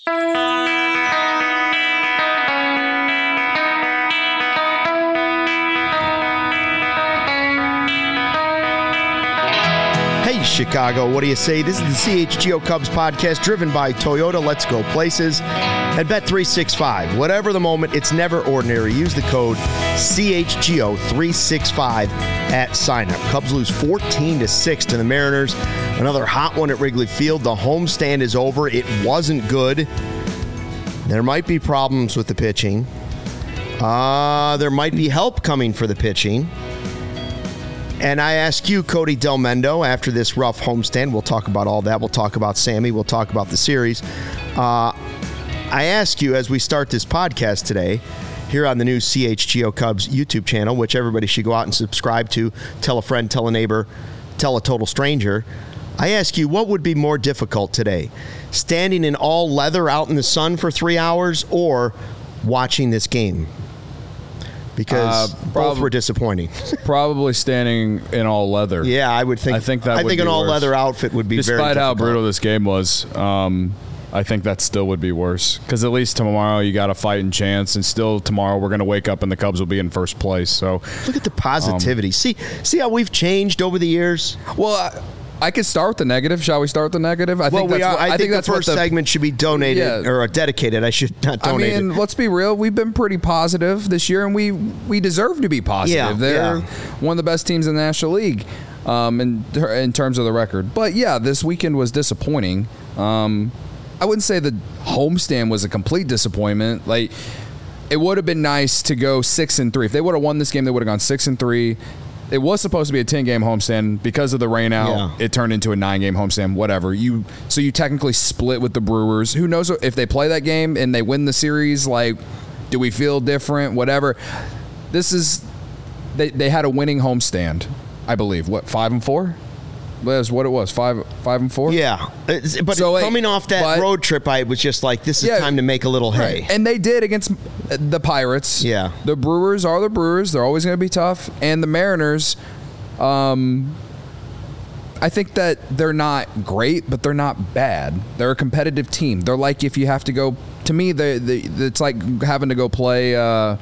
Hey, Chicago, what do you say? This is the CHGO Cubs podcast driven by Toyota. Let's go places. At Bet365, whatever the moment, it's never ordinary. Use the code CHGO365 at signup. Cubs lose 14-6 to the Mariners. Another hot one at Wrigley Field. The homestand is over. It wasn't good. There might be problems with the pitching. There might be help coming for the pitching. And I ask you, Cody Del Mendo, after this rough homestand, we'll talk about all that. We'll talk about Sammy. We'll talk about the series. I ask you, as we start this podcast today, here on the new CHGO Cubs YouTube channel, which everybody should go out and subscribe to, tell a friend, tell a neighbor, tell a total stranger. I ask you, what would be more difficult today? Standing in all leather out in the sun for 3 hours or watching this game? Because both were disappointing. Probably standing in all leather. Yeah, I would think. I think an all leather outfit would be very difficult. Despite how brutal this game was, I think that still would be worse. Because at least tomorrow you got a fighting chance, and still tomorrow we're going to wake up and the Cubs will be in first place. So look at the positivity. See how we've changed over the years. Well, I could start with the negative. Shall we start with the negative? I think the first segment should be donated or dedicated. I should not donate. I mean, let's be real. We've been pretty positive this year, and we deserve to be positive. They're one of the best teams in the National League in terms of the record. But, yeah, this weekend was disappointing. I wouldn't say the homestand was a complete disappointment. Like, it would have been nice to go 6-3. If they would have won this game, they would have gone 6-3. It was supposed to be a 10-game homestand. Because of the rain out, it turned into a 9-game homestand, whatever. So you technically split with the Brewers. Who knows if they play that game and they win the series, like, do we feel different, whatever. They had a winning homestand, I believe. What, 5-4? That's what it was, 5-4? Yeah. But so coming off that road trip, I was just like, this is time to make a little hay. Right. And they did against the Pirates. Yeah. The Brewers are the Brewers. They're always going to be tough. And the Mariners, I think that they're not great, but they're not bad. They're a competitive team. They're like, if you have to go, to me, it's like having to go play,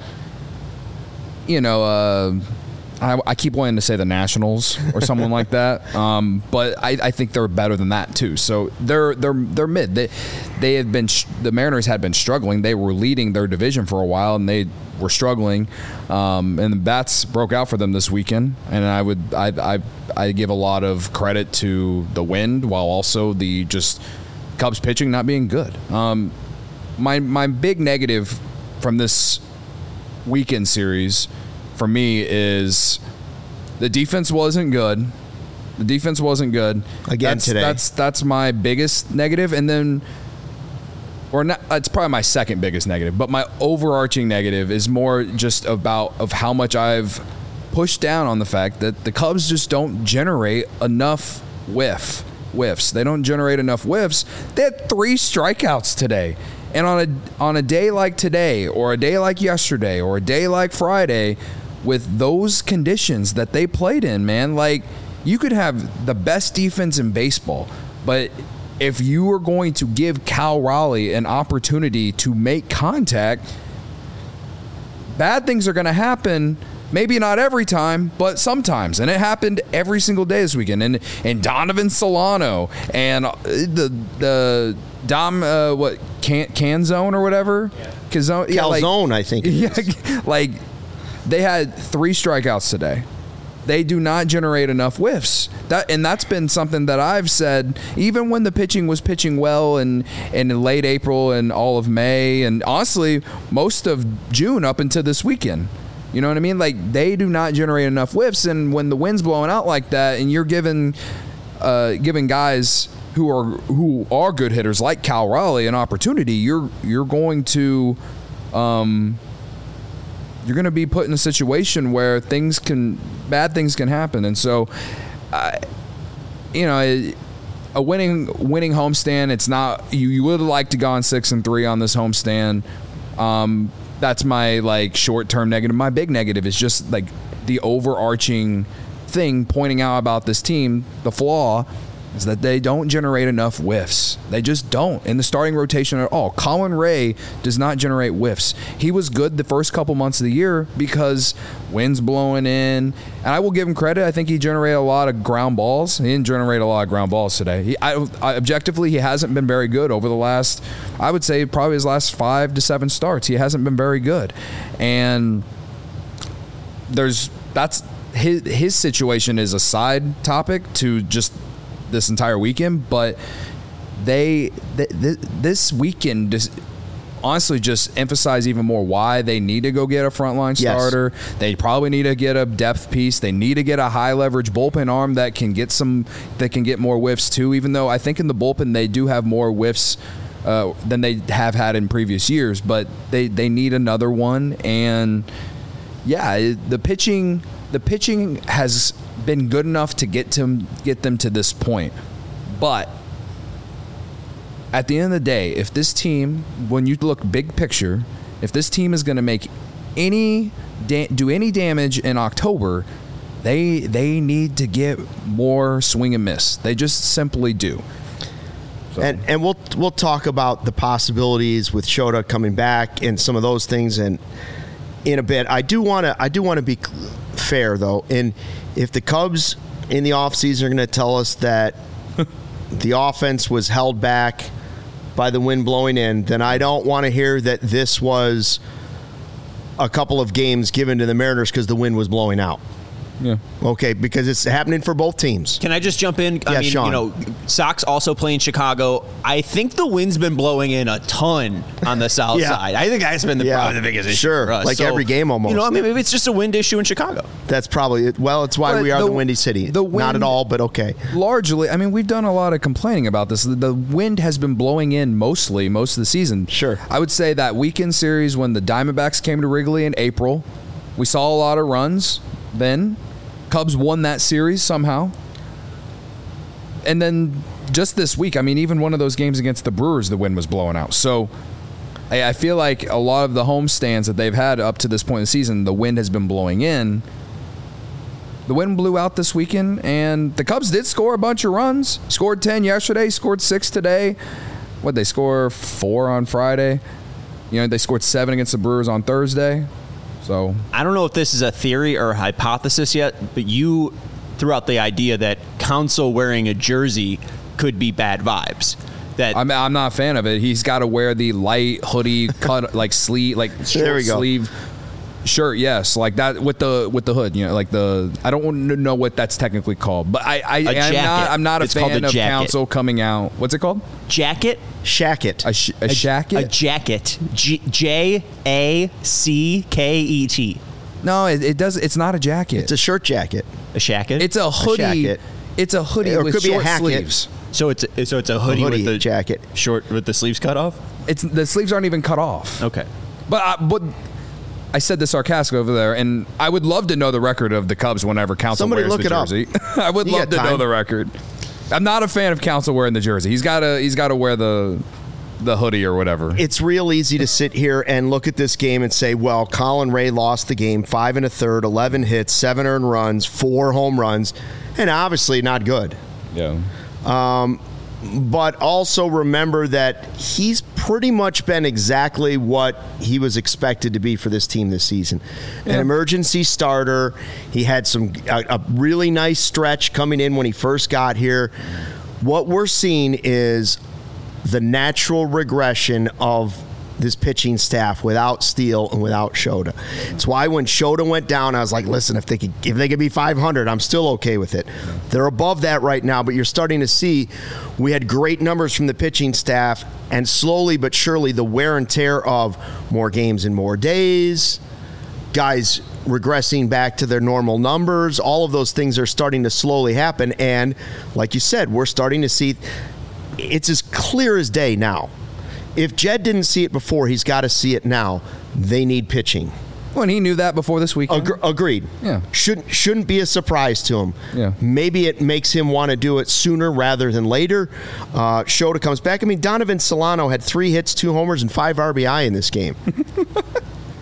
I keep wanting to say the Nationals or someone like that, but I think they're better than that too. So they're mid. They have been the Mariners had been struggling. They were leading their division for a while, and they were struggling. And the bats broke out for them this weekend. And I give a lot of credit to the wind, while also the just Cubs pitching not being good. My big negative from this weekend series, for me, is the defense wasn't good. The defense wasn't good. Today. That's my biggest negative. And then, or not, it's probably my second biggest negative, but my overarching negative is more just of how much I've pushed down on the fact that the Cubs just don't generate enough whiffs. They don't generate enough whiffs. They had 3 strikeouts today. And on a day like today, or a day like yesterday, or a day like Friday, with those conditions that they played in, man, like, you could have the best defense in baseball, but if you are going to give Cal Raleigh an opportunity to make contact, bad things are going to happen. Maybe not every time, but sometimes. And it happened every single day this weekend. And Donovan Solano and the Dom, Canzone or whatever? Yeah. Calzone, I think. Yeah, like, they had 3 strikeouts today. They do not generate enough whiffs. That's been something that I've said, even when the pitching was pitching well in late April and all of May, and honestly, most of June up until this weekend. You know what I mean? Like, they do not generate enough whiffs, and when the wind's blowing out like that, and you're giving guys who are good hitters like Cal Raleigh an opportunity, you're going to you're going to be put in a situation where bad things can happen. And so, a winning homestand, it's not, you would like to go on 6-3 on this homestand. That's my, like, short-term negative. My big negative is just, like, the overarching thing pointing out about this team, the flaw is that they don't generate enough whiffs. They just don't in the starting rotation at all. Colin Ray does not generate whiffs. He was good the first couple months of the year because wind's blowing in. And I will give him credit. I think he generated a lot of ground balls. He didn't generate a lot of ground balls today. Objectively, he hasn't been very good over the last, I would say, probably his last 5 to 7 starts. He hasn't been very good. And that's his situation is a side topic to just this entire weekend, but this weekend honestly just emphasize even more why they need to go get a frontline starter. Yes. They probably need to get a depth piece. They need to get a high leverage bullpen arm that can get more whiffs too, even though I think in the bullpen they do have more whiffs than they have had in previous years, but they need another one. And yeah, the pitching has been good enough to get them to this point. But at the end of the day, if this team, when you look big picture, if this team is going to make do any damage in October, they need to get more swing and miss. They just simply do. So. And we'll talk about the possibilities with Shota coming back and some of those things in a bit. I do want to be fair though, and if the Cubs in the offseason are going to tell us that the offense was held back by the wind blowing in, then I don't want to hear that this was a couple of games given to the Mariners because the wind was blowing out. Yeah. Okay, because it's happening for both teams. Can I just jump in? I mean, Sean. Sox also play in Chicago. I think the wind's been blowing in a ton on the south side. I think that's been probably the biggest issue for us. Like every game almost. Maybe it's just a wind issue in Chicago. That's probably it. Well, it's why we are the Windy City. Not at all, but okay. Largely, I mean, we've done a lot of complaining about this. The wind has been blowing in most of the season. Sure. I would say that weekend series when the Diamondbacks came to Wrigley in April, we saw a lot of runs then. Cubs won that series somehow. And then just this week, I mean, even one of those games against the Brewers, the wind was blowing out. So I feel like a lot of the home stands that they've had up to this point in the season, the wind has been blowing in. The wind blew out this weekend, and the Cubs did score a bunch of runs. Scored 10 yesterday, scored 6 today. What'd they score? 4 on Friday. They scored 7 against the Brewers on Thursday. So I don't know if this is a theory or a hypothesis yet, but you threw out the idea that Counsell wearing a jersey could be bad vibes. That I'm not a fan of it. He's got to wear the light hoodie cut like sleeve, like short sleeve shirt. Yes, like that with the hood. Like I don't know what that's technically called, but I'm not a fan of Counsell coming out. What's it called? Jacket. Shacket. A shacket? A jacket. Jacket. No, it does. It's not a jacket. It's a shirt jacket. A shacket? It's a hoodie. It's a hoodie with short sleeves. So it's a hoodie with the jacket. Short with the sleeves cut off? The sleeves aren't even cut off. Okay. But I said this sarcastic over there, and I would love to know the record of the Cubs whenever Counsell wears the jersey. I would love to know the record. I'm not a fan of Counsell wearing the jersey. He's got to wear the hoodie or whatever. It's real easy to sit here and look at this game and say, well, Colin Ray lost the game 5 1/3, 11 hits, 7 earned runs, 4 home runs, and obviously not good. Yeah. But also remember that he's pretty much been exactly what he was expected to be for this team this season. An emergency starter. He had a really nice stretch coming in when he first got here. What we're seeing is the natural regression of this pitching staff without Steele and without Shota. It's why when Shota went down, I was like, listen, if they could be 500, I'm still okay with it. They're above that right now, but you're starting to see we had great numbers from the pitching staff, and slowly but surely the wear and tear of more games in more days, guys regressing back to their normal numbers, all of those things are starting to slowly happen. And like you said, we're starting to see it's as clear as day now. If Jed didn't see it before, he's got to see it now. They need pitching. Well, and he knew that before this weekend. Agreed. Yeah. Shouldn't be a surprise to him. Yeah. Maybe it makes him want to do it sooner rather than later. Shota comes back. I mean, Donovan Solano had 3 hits, 2 homers, and 5 RBI in this game.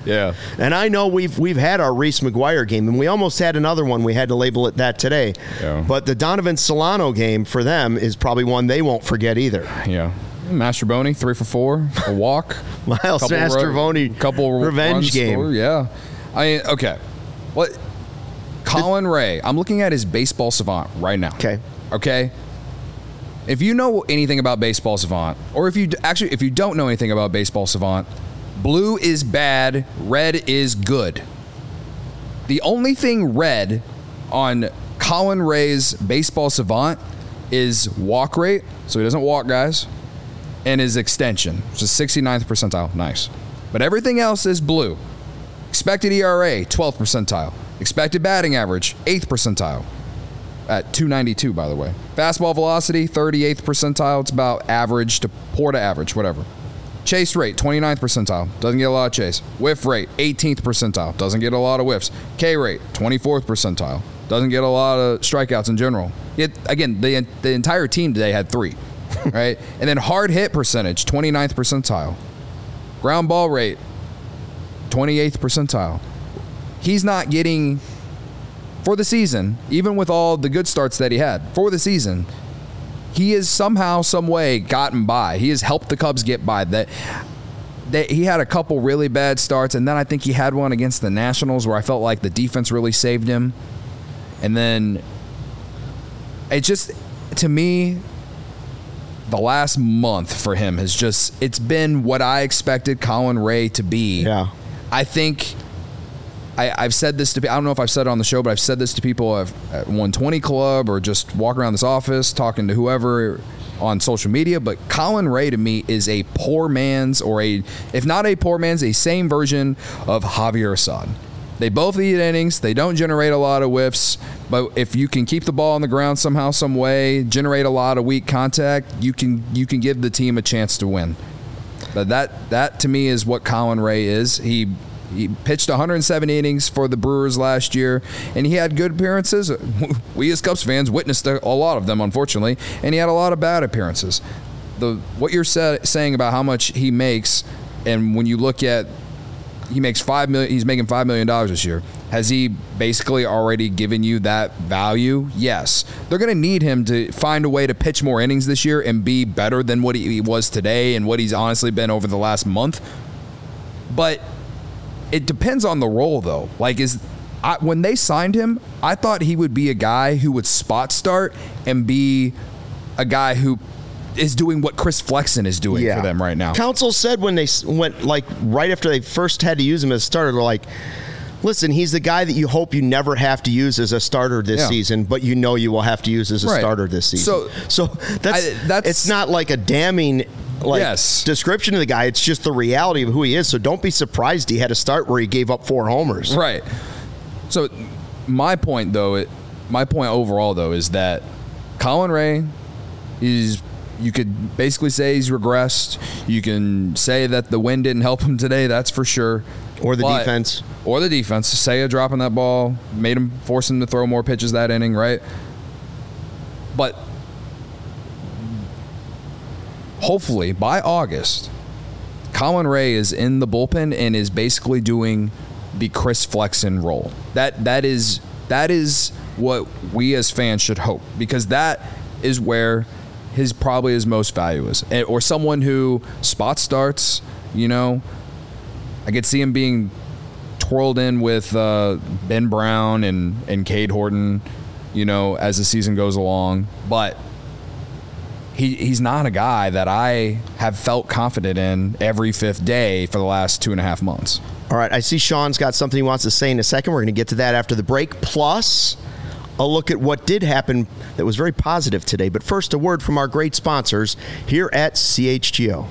Yeah. And I know we've had our Reese McGuire game, and we almost had another one. We had to label it that today. Yeah. But the Donovan Solano game for them is probably one they won't forget either. Yeah. Mastroboni, 3 for 4, a walk. Miles Mastroboni, couple revenge game. Scored, yeah. I mean, okay. What? Colin Ray. I'm looking at his Baseball Savant right now. Okay. If you know anything about Baseball Savant, or if you don't know anything about Baseball Savant, blue is bad, red is good. The only thing red on Colin Ray's Baseball Savant is walk rate, so he doesn't walk guys, and his extension, which is 69th percentile. Nice. But everything else is blue. Expected ERA, 12th percentile. Expected batting average, 8th percentile. At 292, by the way. Fastball velocity, 38th percentile. It's about average to poor to average, whatever. Chase rate, 29th percentile. Doesn't get a lot of chase. Whiff rate, 18th percentile. Doesn't get a lot of whiffs. K rate, 24th percentile. Doesn't get a lot of strikeouts in general. Again, the entire team today had 3. Right? And then hard hit percentage, 29th percentile. Ground ball rate, 28th percentile. He's not getting, for the season, even with all the good starts that he had, for the season, he has somehow, some way gotten by. He has helped the Cubs get by. That he had a couple really bad starts, and then I think he had one against the Nationals where I felt like the defense really saved him. And then it just, to me, the last month for him has just, it's been what I expected Colin Ray to be. Yeah. I think I've said this to people. I don't know if I've said it on the show, but I've said this to people at 120 Club or just walking around this office talking to whoever on social media. But Colin Ray to me is a poor man's, or if not a poor man's, a same version of Javier Assad. They both eat innings. They don't generate a lot of whiffs. But if you can keep the ball on the ground somehow, some way, generate a lot of weak contact, you can give the team a chance to win. But that to me is what Colin Ray is. He pitched 107 innings for the Brewers last year, and he had good appearances. We as Cubs fans witnessed a lot of them, unfortunately, and he had a lot of bad appearances. What you're saying about how much he makes, and when you look at he's making $5 million this year. Has he basically already given you that value? Yes. They're going to need him to find a way to pitch more innings this year and be better than what he was today and what he's honestly been over the last month. But it depends on the role, though. When they signed him, I thought he would be a guy who would spot start and be a guy who is doing what Chris Flexen is doing for them right now. Council said when they went, right after they first had to use him as a starter, they're like, listen, he's the guy that you hope you never have to use as a starter this season, but you know you will have to use as a starter this season. So that's it's not like a damning description of the guy. It's just the reality of who he is. So don't be surprised he had a start where he gave up 4 homers. Right. So my point overall, though, is that Colin Ray you could basically say he's regressed. You can say that the wind didn't help him today, that's for sure. Or the defense. Or the defense. Seiya dropping that ball, forced him to throw more pitches that inning, right? But hopefully by August, Colin Ray is in the bullpen and is basically doing the Chris Flexen role. That is what we as fans should hope, because that is where probably his most value is. Or someone who spot starts, I could see him being twirled in with Ben Brown and Cade Horton, as the season goes along. But he's not a guy that I have felt confident in every 5th day for the last 2.5 months. All right, I see Sean's got something he wants to say in a second. We're going to get to that after the break. Plus, a look at what did happen that was very positive today. But first, a word from our great sponsors here at CHGO.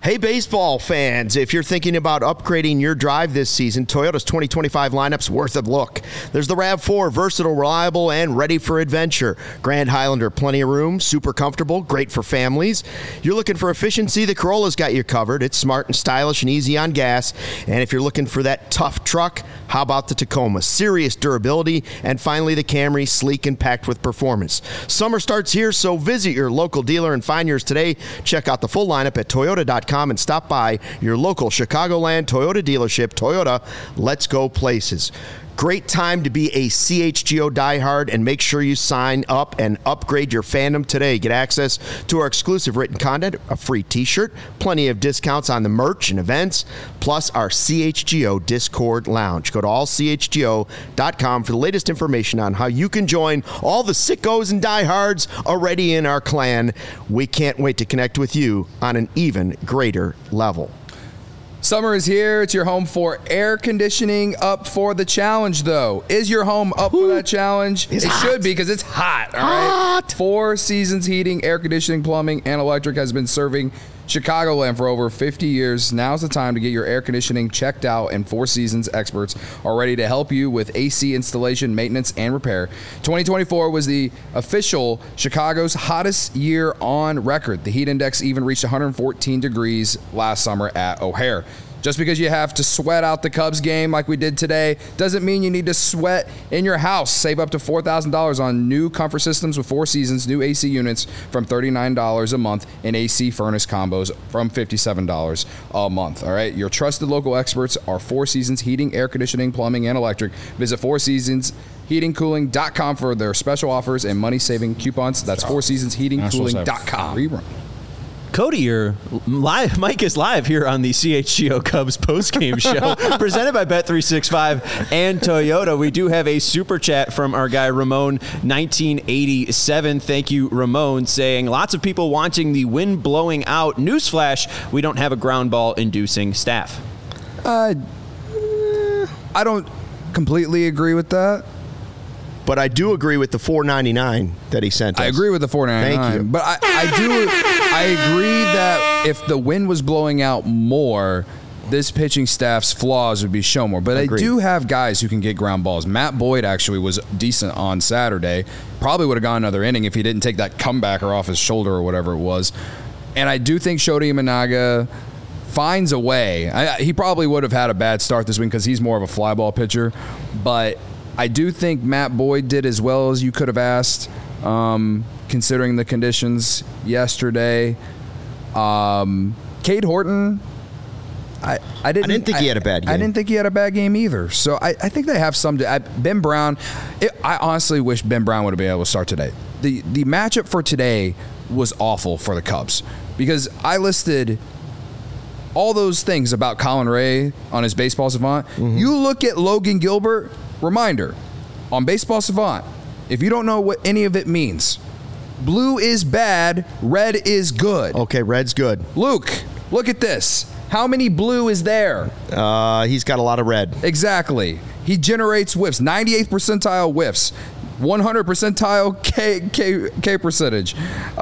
Hey, baseball fans, if you're thinking about upgrading your drive this season, Toyota's 2025 lineup's worth a look. There's the RAV4, versatile, reliable, and ready for adventure. Grand Highlander, plenty of room, super comfortable, great for families. You're looking for efficiency, the Corolla's got you covered. It's smart and stylish and easy on gas. And if you're looking for that tough truck, how about the Tacoma? Serious durability. And finally, the Camry, sleek and packed with performance. Summer starts here, so visit your local dealer and find yours today. Check out the full lineup at Toyota.com and stop by your local Chicagoland Toyota dealership. Toyota, let's go places. Great time to be a CHGO diehard, and make sure you sign up and upgrade your fandom today. Get access to our exclusive written content, a free t-shirt, plenty of discounts on the merch and events, plus our CHGO Discord lounge. Go to allchgo.com for the latest information on how you can join all the sickos and diehards already in our clan. We can't wait to connect with you on an even greater level. Summer is here. It's your home for air conditioning. Up for the challenge, though. Is your home up for that challenge? It should be, because it's hot. All right. Four Seasons Heating, Air Conditioning, Plumbing, and Electric has been serving Chicagoland for over 50 years. Now's the time to get your air conditioning checked out, and Four Seasons experts are ready to help you with AC installation, maintenance, and repair. 2024 was the official Chicago's hottest year on record. The heat index even reached 114 degrees last summer at O'Hare. Just because you have to sweat out the Cubs game like we did today doesn't mean you need to sweat in your house. Save up to $4,000 on new comfort systems with Four Seasons new AC units from $39 a month, and AC furnace combos from $57 a month. All right, your trusted local experts are Four Seasons Heating, Air Conditioning, Plumbing, and Electric. Visit FourSeasonsHeatingCooling.com for their special offers and money-saving coupons. That's FourSeasonsHeatingCooling.com. Cody, Mike is live here on the CHGO Cubs postgame show presented by Bet365 and Toyota. We do have a super chat from our guy Ramon 1987. Thank you, Ramon, saying lots of people wanting the wind blowing out. Newsflash, we don't have a ground ball inducing staff. I don't completely agree with that. But I do agree with the $4.99 that he sent us. I agree with the $4.99. Thank you. But I agree that if the wind was blowing out more, this pitching staff's flaws would be shown more. But Agreed. I do have guys who can get ground balls. Matt Boyd actually was decent on Saturday. Probably would have gone another inning if he didn't take that comebacker off his shoulder or whatever it was. And I do think Shota Imanaga finds a way. He probably would have had a bad start this week because he's more of a fly ball pitcher. But I do think Matt Boyd did as well as you could have asked, considering the conditions yesterday. Cade Horton, I didn't think he had a bad game. I didn't think he had a bad game either. So I think they have some. Ben Brown, I honestly wish Ben Brown would have been able to start today. The matchup for today was awful for the Cubs because I listed all those things about Colin Ray on his Baseball Savant. Mm-hmm. You look at Logan Gilbert. Reminder, on Baseball Savant, if you don't know what any of it means, blue is bad, red is good. Okay, red's good. Luke, look at this. How many blue is there? He's got a lot of red. Exactly. He generates whiffs, 98th percentile whiffs, 100 percentile K percentage.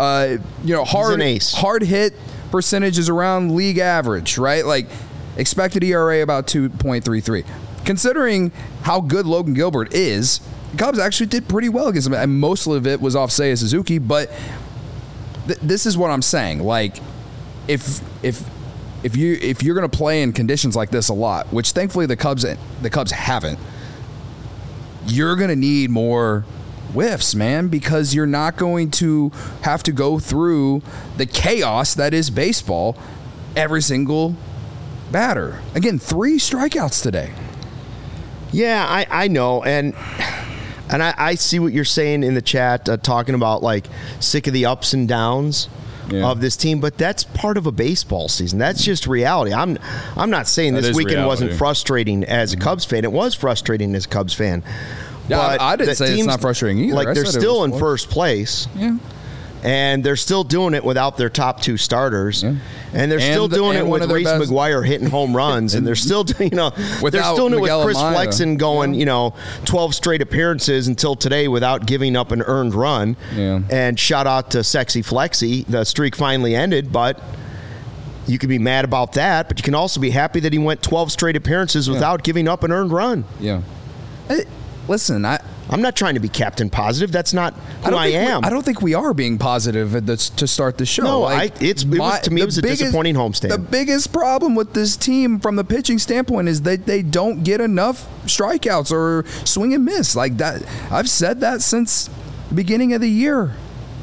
Hard hit percentage is around league average, right? Like expected ERA about 2.33. Considering how good Logan Gilbert is, the Cubs actually did pretty well against him. And most of it was off Seiya Suzuki, but this is what I'm saying. Like, if you're going to play in conditions like this a lot, which thankfully the Cubs haven't, you're going to need more whiffs, man, because you're not going to have to go through the chaos that is baseball every single batter. Again, 3 strikeouts today. Yeah, I know, and I see what you're saying in the chat, talking about like sick of the ups and downs of this team, but that's part of a baseball season. That's just reality. I'm not saying this weekend wasn't frustrating as a Cubs fan. It was frustrating as a Cubs fan. Yeah, but I didn't say it's not frustrating either. Like they're still in first place. Yeah. And they're still doing it without their top 2 starters, and they're still doing it with Reese McGuire hitting home runs, and they're still, they're still doing it with Chris Flexen going, 12 straight appearances until today without giving up an earned run. Yeah. And shout out to Sexy Flexi, the streak finally ended, but You could be mad about that, but you can also be happy that he went 12 straight appearances without giving up an earned run. Yeah. Listen, I'm not trying to be Captain Positive. That's not who I am. I don't think we are being positive to start the show. No, to me, it was a disappointing homestand. The biggest problem with this team from the pitching standpoint is that they don't get enough strikeouts or swing and miss. Like that, I've said that since the beginning of the year,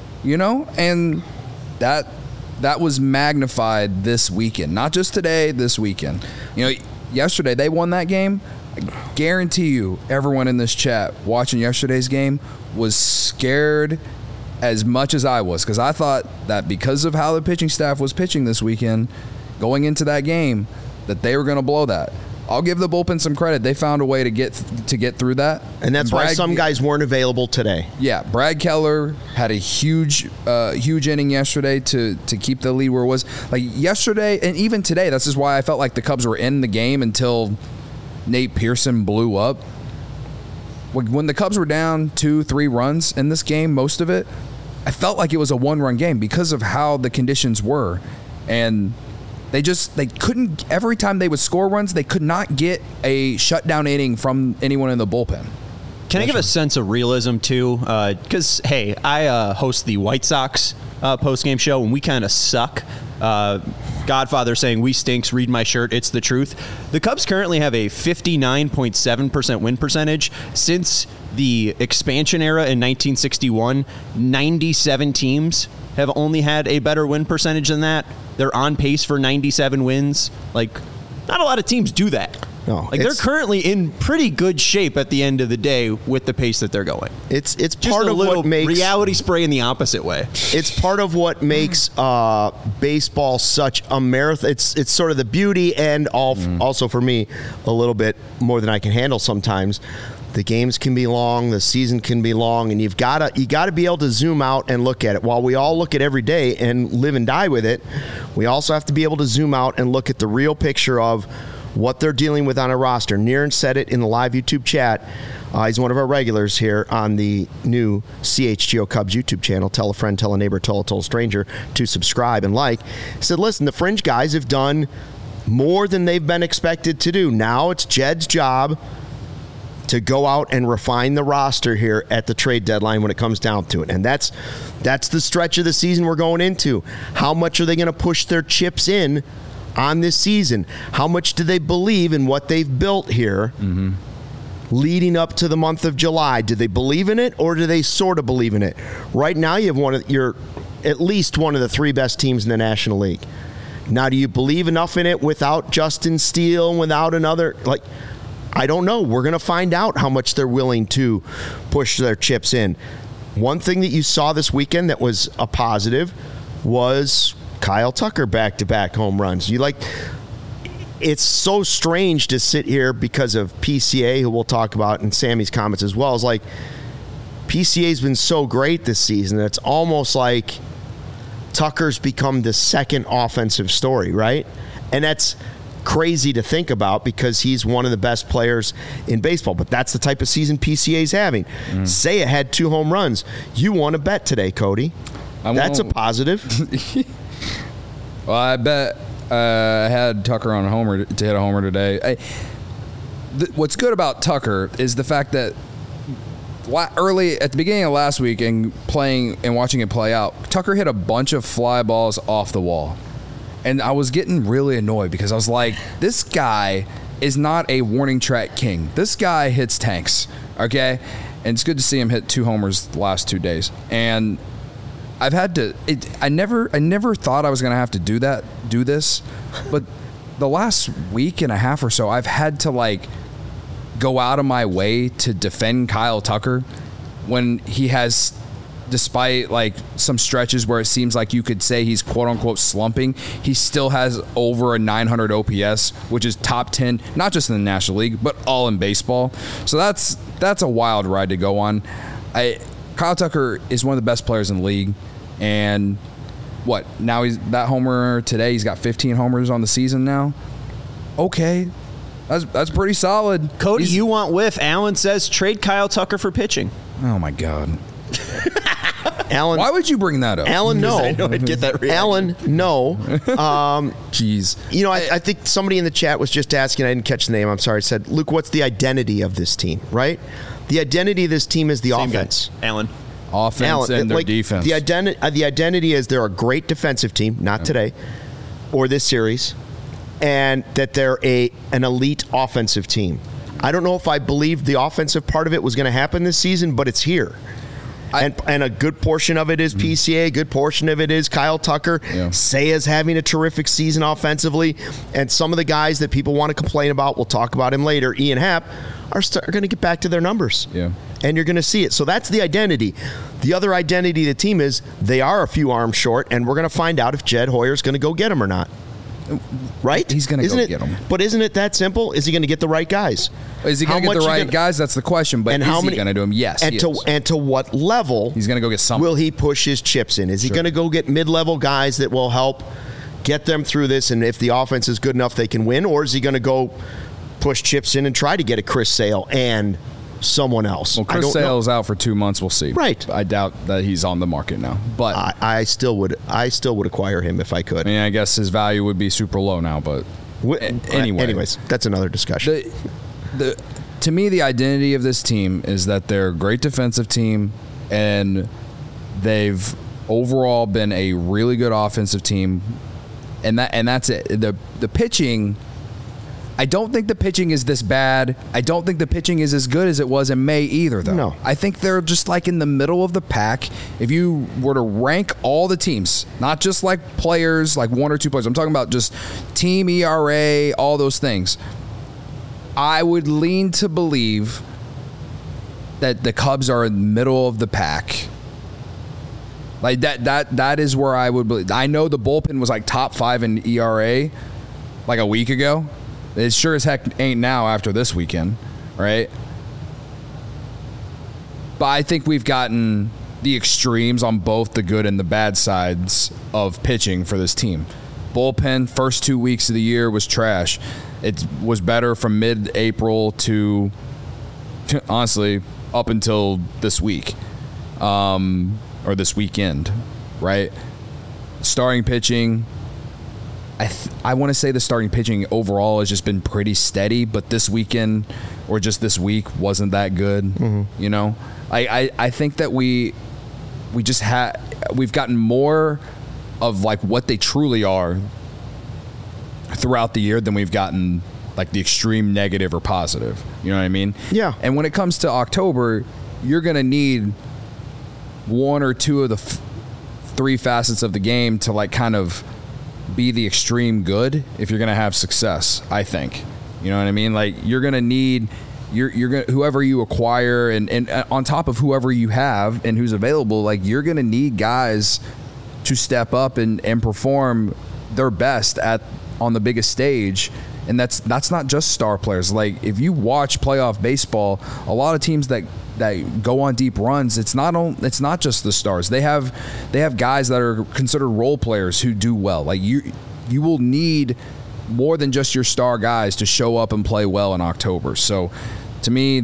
and that was magnified this weekend. Not just today, this weekend. Yesterday they won that game. I guarantee you, everyone in this chat watching yesterday's game was scared as much as I was, because I thought that because of how the pitching staff was pitching this weekend, going into that game, that they were going to blow that. I'll give the bullpen some credit. They found a way to get through that. And that's why some guys weren't available today. Yeah, Brad Keller had a huge inning yesterday to keep the lead where it was. Like yesterday and even today, this is why I felt like the Cubs were in the game until Nate Pearson blew up. When the Cubs were down 2-3 runs in this game, most of it, I felt like it was a one-run game because of how the conditions were. And they couldn't, every time they would score runs, they could not get a shutdown inning from anyone in the bullpen. Can I give a sense of realism, too? Because, hey, I host the White Sox post-game show, and we kind of suck. Godfather saying, "We stinks, read my shirt, it's the truth." The Cubs currently have a 59.7% win percentage. Since the expansion era in 1961, 97 teams have only had a better win percentage than that. They're on pace for 97 wins. Like, not a lot of teams do that. No, they're currently in pretty good shape at the end of the day with the pace that they're going. It's just part of what makes reality spray in the opposite way. It's part of what makes baseball such a marathon. It's sort of the beauty and also for me a little bit more than I can handle sometimes. The games can be long, the season can be long, and you got to be able to zoom out and look at it. While we all look at every day and live and die with it, we also have to be able to zoom out and look at the real picture of what they're dealing with on a roster. Niren said it in the live YouTube chat. He's one of our regulars here on the new CHGO Cubs YouTube channel. Tell a friend, tell a neighbor, tell a stranger to subscribe and like. He said, listen, the fringe guys have done more than they've been expected to do. Now it's Jed's job to go out and refine the roster here at the trade deadline when it comes down to it. And that's the stretch of the season we're going into. How much are they going to push their chips in on this season? How much do they believe in what they've built here leading up to the month of July? Do they believe in it, or do they sort of believe in it? Right now, you have at least one of the three best teams in the National League. Now, do you believe enough in it without Justin Steele and without another? I don't know. We're going to find out how much they're willing to push their chips in. One thing that you saw this weekend that was a positive was Kyle Tucker back-to-back home runs. It's so strange to sit here because of PCA, who we'll talk about in Sammy's comments as well. It's like PCA's been so great this season that it's almost like Tucker's become the second offensive story, right? And that's crazy to think about because he's one of the best players in baseball. But that's the type of season PCA's having. Say it had 2 home runs. You won a bet today, Cody. That's a positive. Well, I bet I had Tucker on a homer to hit a homer today. What's good about Tucker is the fact that early at the beginning of last week and playing and watching it play out, Tucker hit a bunch of fly balls off the wall. And I was getting really annoyed because I was like, this guy is not a warning track king. This guy hits tanks, okay? And it's good to see him hit 2 homers the last 2 days. And I've had to. I never thought I was going to have to do this, but the last week and a half or so, I've had to go out of my way to defend Kyle Tucker when he has, despite some stretches where it seems like you could say he's quote unquote slumping, he still has over a 900 OPS, which is top 10, not just in the National League, but all in baseball. So that's a wild ride to go on. Kyle Tucker is one of the best players in the league, and now he's that homer today. He's got 15 homers on the season now. Okay, that's pretty solid. Cody, you want whiff? Alan says trade Kyle Tucker for pitching. Oh my God. Alan. Why would you bring that up? Alan, no. I know I'd get that reaction. Alan, no. Jeez. You know, I think somebody in the chat was just asking, I didn't catch the name, I'm sorry, said, Luke, what's the identity of this team, right? The identity of this team is the Same offense. guy. Alan. Offense and their defense. The identity is they're a great defensive team, not today, or this series, and that they're an elite offensive team. I don't know if I believed the offensive part of it was going to happen this season, but it's here. And a good portion of it is PCA, a good portion of it is Kyle Tucker. Yeah. Saya's having a terrific season offensively. And some of the guys that people want to complain about, we'll talk about him later, Ian Happ, are going to get back to their numbers. Yeah. And you're going to see it. So that's the identity. The other identity of the team is they are a few arms short, and we're going to find out if Jed Hoyer's going to go get him or not. Right? He's going to go get them. But isn't it that simple? Is he going to get the right guys? Is he going to get the right guys? That's the question. But is he going to do them? Yes. And to what level? He's going to go get some. Will he push his chips in? Is he going to go get mid-level guys that will help get them through this? And if the offense is good enough, they can win. Or is he going to go push chips in and try to get a Chris Sale and someone else? Well, Chris Sale's out for 2 months. We'll see. Right. I doubt that he's on the market now. But I still would acquire him if I could. I mean, I guess his value would be super low now. But anyways, that's another discussion. To me, the identity of this team is that they're a great defensive team, and they've overall been a really good offensive team, and that's it. The pitching. I don't think the pitching is this bad. I don't think the pitching is as good as it was in May either, though. No. I think they're just like in the middle of the pack. If you were to rank all the teams, not just like players, like one or two players, I'm talking about just team ERA, all those things, I would lean to believe that the Cubs are in the middle of the pack. Like that is where I would believe. I know the bullpen was like top 5 in ERA like a week ago. It sure as heck ain't now after this weekend, right? But I think we've gotten the extremes on both the good and the bad sides of pitching for this team. Bullpen, first 2 weeks of the year was trash. It was better from mid-April to honestly, up until this week, or this weekend, right? Starting pitching, I want to say the starting pitching overall has just been pretty steady, but this weekend or just this week wasn't that good. Mm-hmm. You know, I think that we've gotten more of like what they truly are throughout the year than we've gotten like the extreme negative or positive. You know what I mean? Yeah. And when it comes to October, you're going to need one or two of the three facets of the game to like kind of be the extreme good if you're going to have success, I think. You know what I mean? Like you're going to need you're going whoever you acquire and on top of whoever you have and who's available, like you're going to need guys to step up and perform their best on the biggest stage. And that's not just star players. Like if you watch playoff baseball, a lot of teams that go on deep runs, it's not just the stars. They have guys that are considered role players who do well. Like you will need more than just your star guys to show up and play well in October. So to me,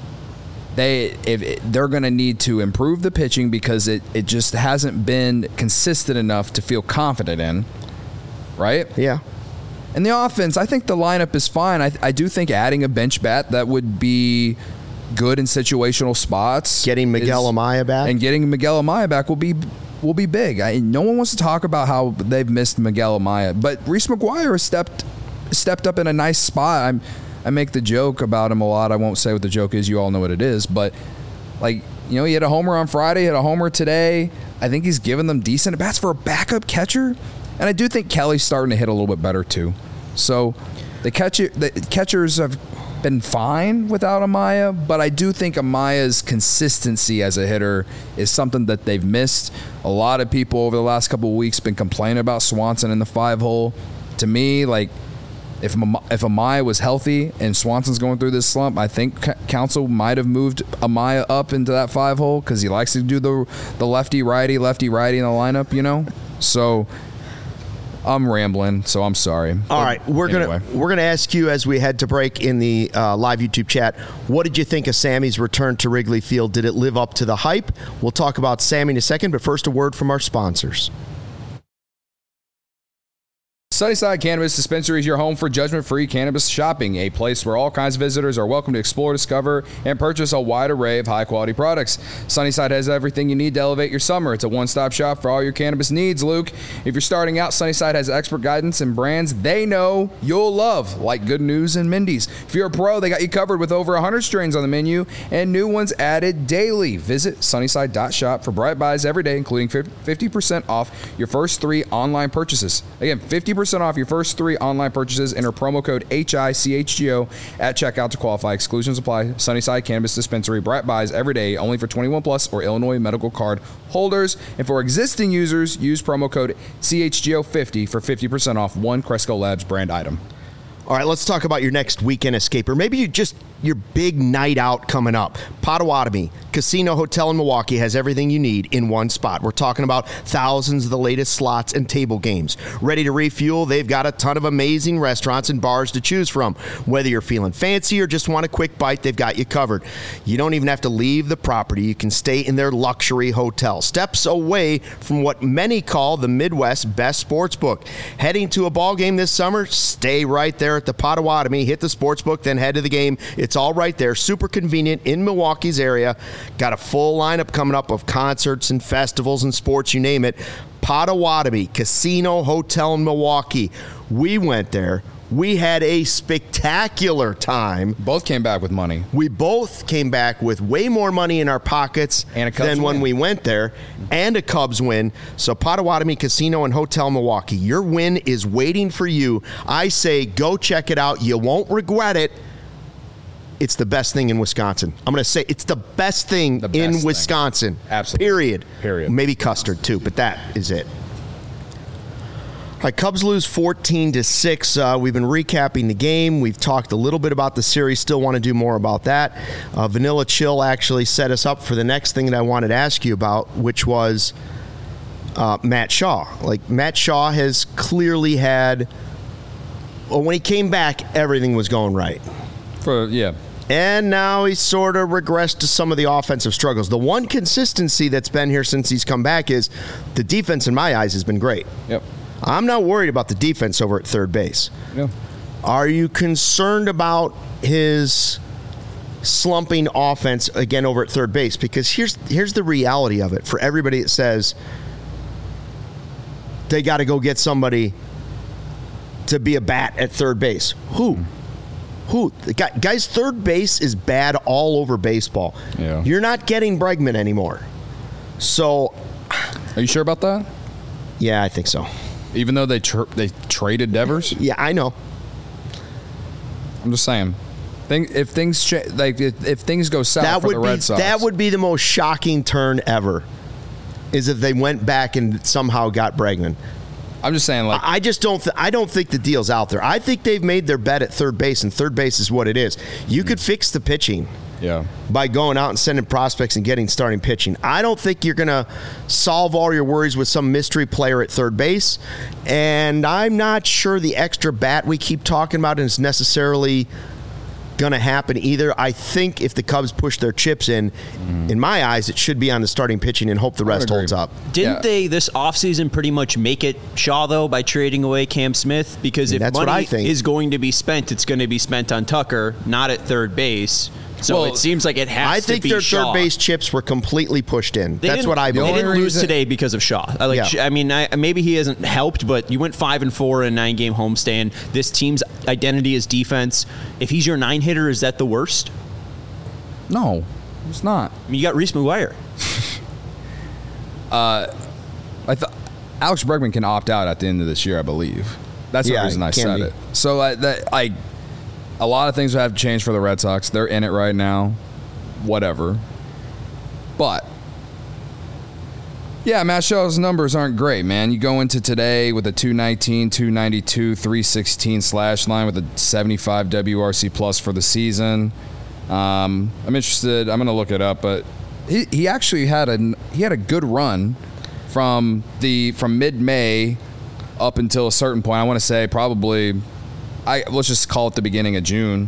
they're going to need to improve the pitching because it just hasn't been consistent enough to feel confident in. Right? Yeah. And the offense, I think the lineup is fine. I do think adding a bench bat that would be good in situational spots. Getting Miguel Amaya back. And getting Miguel Amaya back will be big. No one wants to talk about how they've missed Miguel Amaya, but Reese McGuire has stepped up in a nice spot. I make the joke about him a lot. I won't say what the joke is. You all know what it is. But like, you know, he had a homer on Friday, had a homer today. I think he's given them decent at bats for a backup catcher. And I do think Kelly's starting to hit a little bit better too. So the catchers have been fine without Amaya, but I do think Amaya's consistency as a hitter is something that they've missed. A lot of people over the last couple of weeks been complaining about Swanson in the 5-hole. To me, like if Amaya was healthy and Swanson's going through this slump, I think Counsell might have moved Amaya up into that 5-hole because he likes to do the lefty righty in the lineup, you know. So I'm rambling, so I'm sorry. All right, we're gonna ask you as we head to break in the live YouTube chat. What did you think of Sammy's return to Wrigley Field? Did it live up to the hype? We'll talk about Sammy in a second, but first a word from our sponsors. Sunnyside Cannabis Dispensary is your home for judgment-free cannabis shopping, a place where all kinds of visitors are welcome to explore, discover, and purchase a wide array of high-quality products. Sunnyside has everything you need to elevate your summer. It's a one-stop shop for all your cannabis needs, Luke. If you're starting out, Sunnyside has expert guidance and brands they know you'll love, like Good News and Mindy's. If you're a pro, they got you covered with over 100 strains on the menu and new ones added daily. Visit sunnyside.shop for bright buys every day, including 50% off your first 3 online purchases. Again, 50% off your first 3 online purchases. Enter promo code HICHGO at checkout to qualify. Exclusions apply. Sunnyside Cannabis Dispensary. Bright buys every day, only for 21 plus or Illinois medical card holders. And for existing users, use promo code CHGO50 for 50% off one Cresco Labs brand item. All right, let's talk about your next weekend escape, or maybe your big night out coming up. Potawatomi Casino Hotel in Milwaukee has everything you need in one spot. We're talking about thousands of the latest slots and table games. Ready to refuel? They've got a ton of amazing restaurants and bars to choose from. Whether you're feeling fancy or just want a quick bite, they've got you covered. You don't even have to leave the property. You can stay in their luxury hotel, steps away from what many call the Midwest's best sports book. Heading to a ball game this summer? Stay right there at the Potawatomi. Hit the sports book, then head to the game. It's all right there. Super convenient in Milwaukee's area. Got a full lineup coming up of concerts and festivals and sports, you name it. Potawatomi Casino Hotel in Milwaukee. We went there. We had a spectacular time. Both came back with money. We both came back with way more money in our pockets than when we went there, and a Cubs win. So Potawatomi Casino and Hotel Milwaukee, your win is waiting for you. I say go check it out. You won't regret it. It's the best thing in Wisconsin. I'm going to say it's the best thing in Wisconsin. Absolutely. Period. Maybe custard too, but that is it. All right, Cubs lose 14-6. We've been recapping the game. We've talked a little bit about the series. Still want to do more about that. Vanilla Chill actually set us up for the next thing that I wanted to ask you about, which was Matt Shaw. Like, Matt Shaw has clearly had, when he came back, everything was going right. And now he's sort of regressed to some of the offensive struggles. The one consistency that's been here since he's come back is the defense, in my eyes, has been great. Yep. I'm not worried about the defense over at third base. Yeah. Are you concerned about his slumping offense again over at third base? Because here's the reality of it for everybody that says they got to go get somebody to be a bat at third base. Who? Guys, third base is bad all over baseball. Yeah. You're not getting Bregman anymore. So, are you sure about that? Yeah, I think so. Even though they traded Devers? Yeah, I know. I'm just saying. If things go south for the Red Sox, that would be the most shocking turn ever. Is if they went back and somehow got Bregman. I'm just saying, like, I just don't. I don't think the deal's out there. I think they've made their bet at third base, and third base is what it is. You could fix the pitching, by going out and sending prospects and getting starting pitching. I don't think you're going to solve all your worries with some mystery player at third base, and I'm not sure the extra bat we keep talking about is necessarily going to happen either. I think if the Cubs push their chips in my eyes, it should be on the starting pitching and hope the rest holds up. Didn't they this offseason pretty much make it Shaw, though, by trading away Cam Smith? Because if money is going to be spent, it's going to be spent on Tucker, not at third base. So it seems like it has to be Shaw. I think their third base chips were completely pushed in. That's what I believe. They didn't lose today because of Shaw. I mean, maybe he hasn't helped, but you went 5-4 in a 9-game homestand. This team's identity is defense. If he's your 9-hitter, is that the worst? No, it's not. I mean, you got Reese McGuire. I thought Alex Bregman can opt out at the end of this year, I believe. That's the reason I said it. So a lot of things would have to change for the Red Sox. They're in it right now. Whatever. But, yeah, Matt Shaw's numbers aren't great, man. You go into today with a 219, 292, 316 slash line with a 75 WRC plus for the season. I'm interested. I'm going to look it up, but he actually had a good run from mid-May up until a certain point. I want to say probably, let's just call it the beginning of June,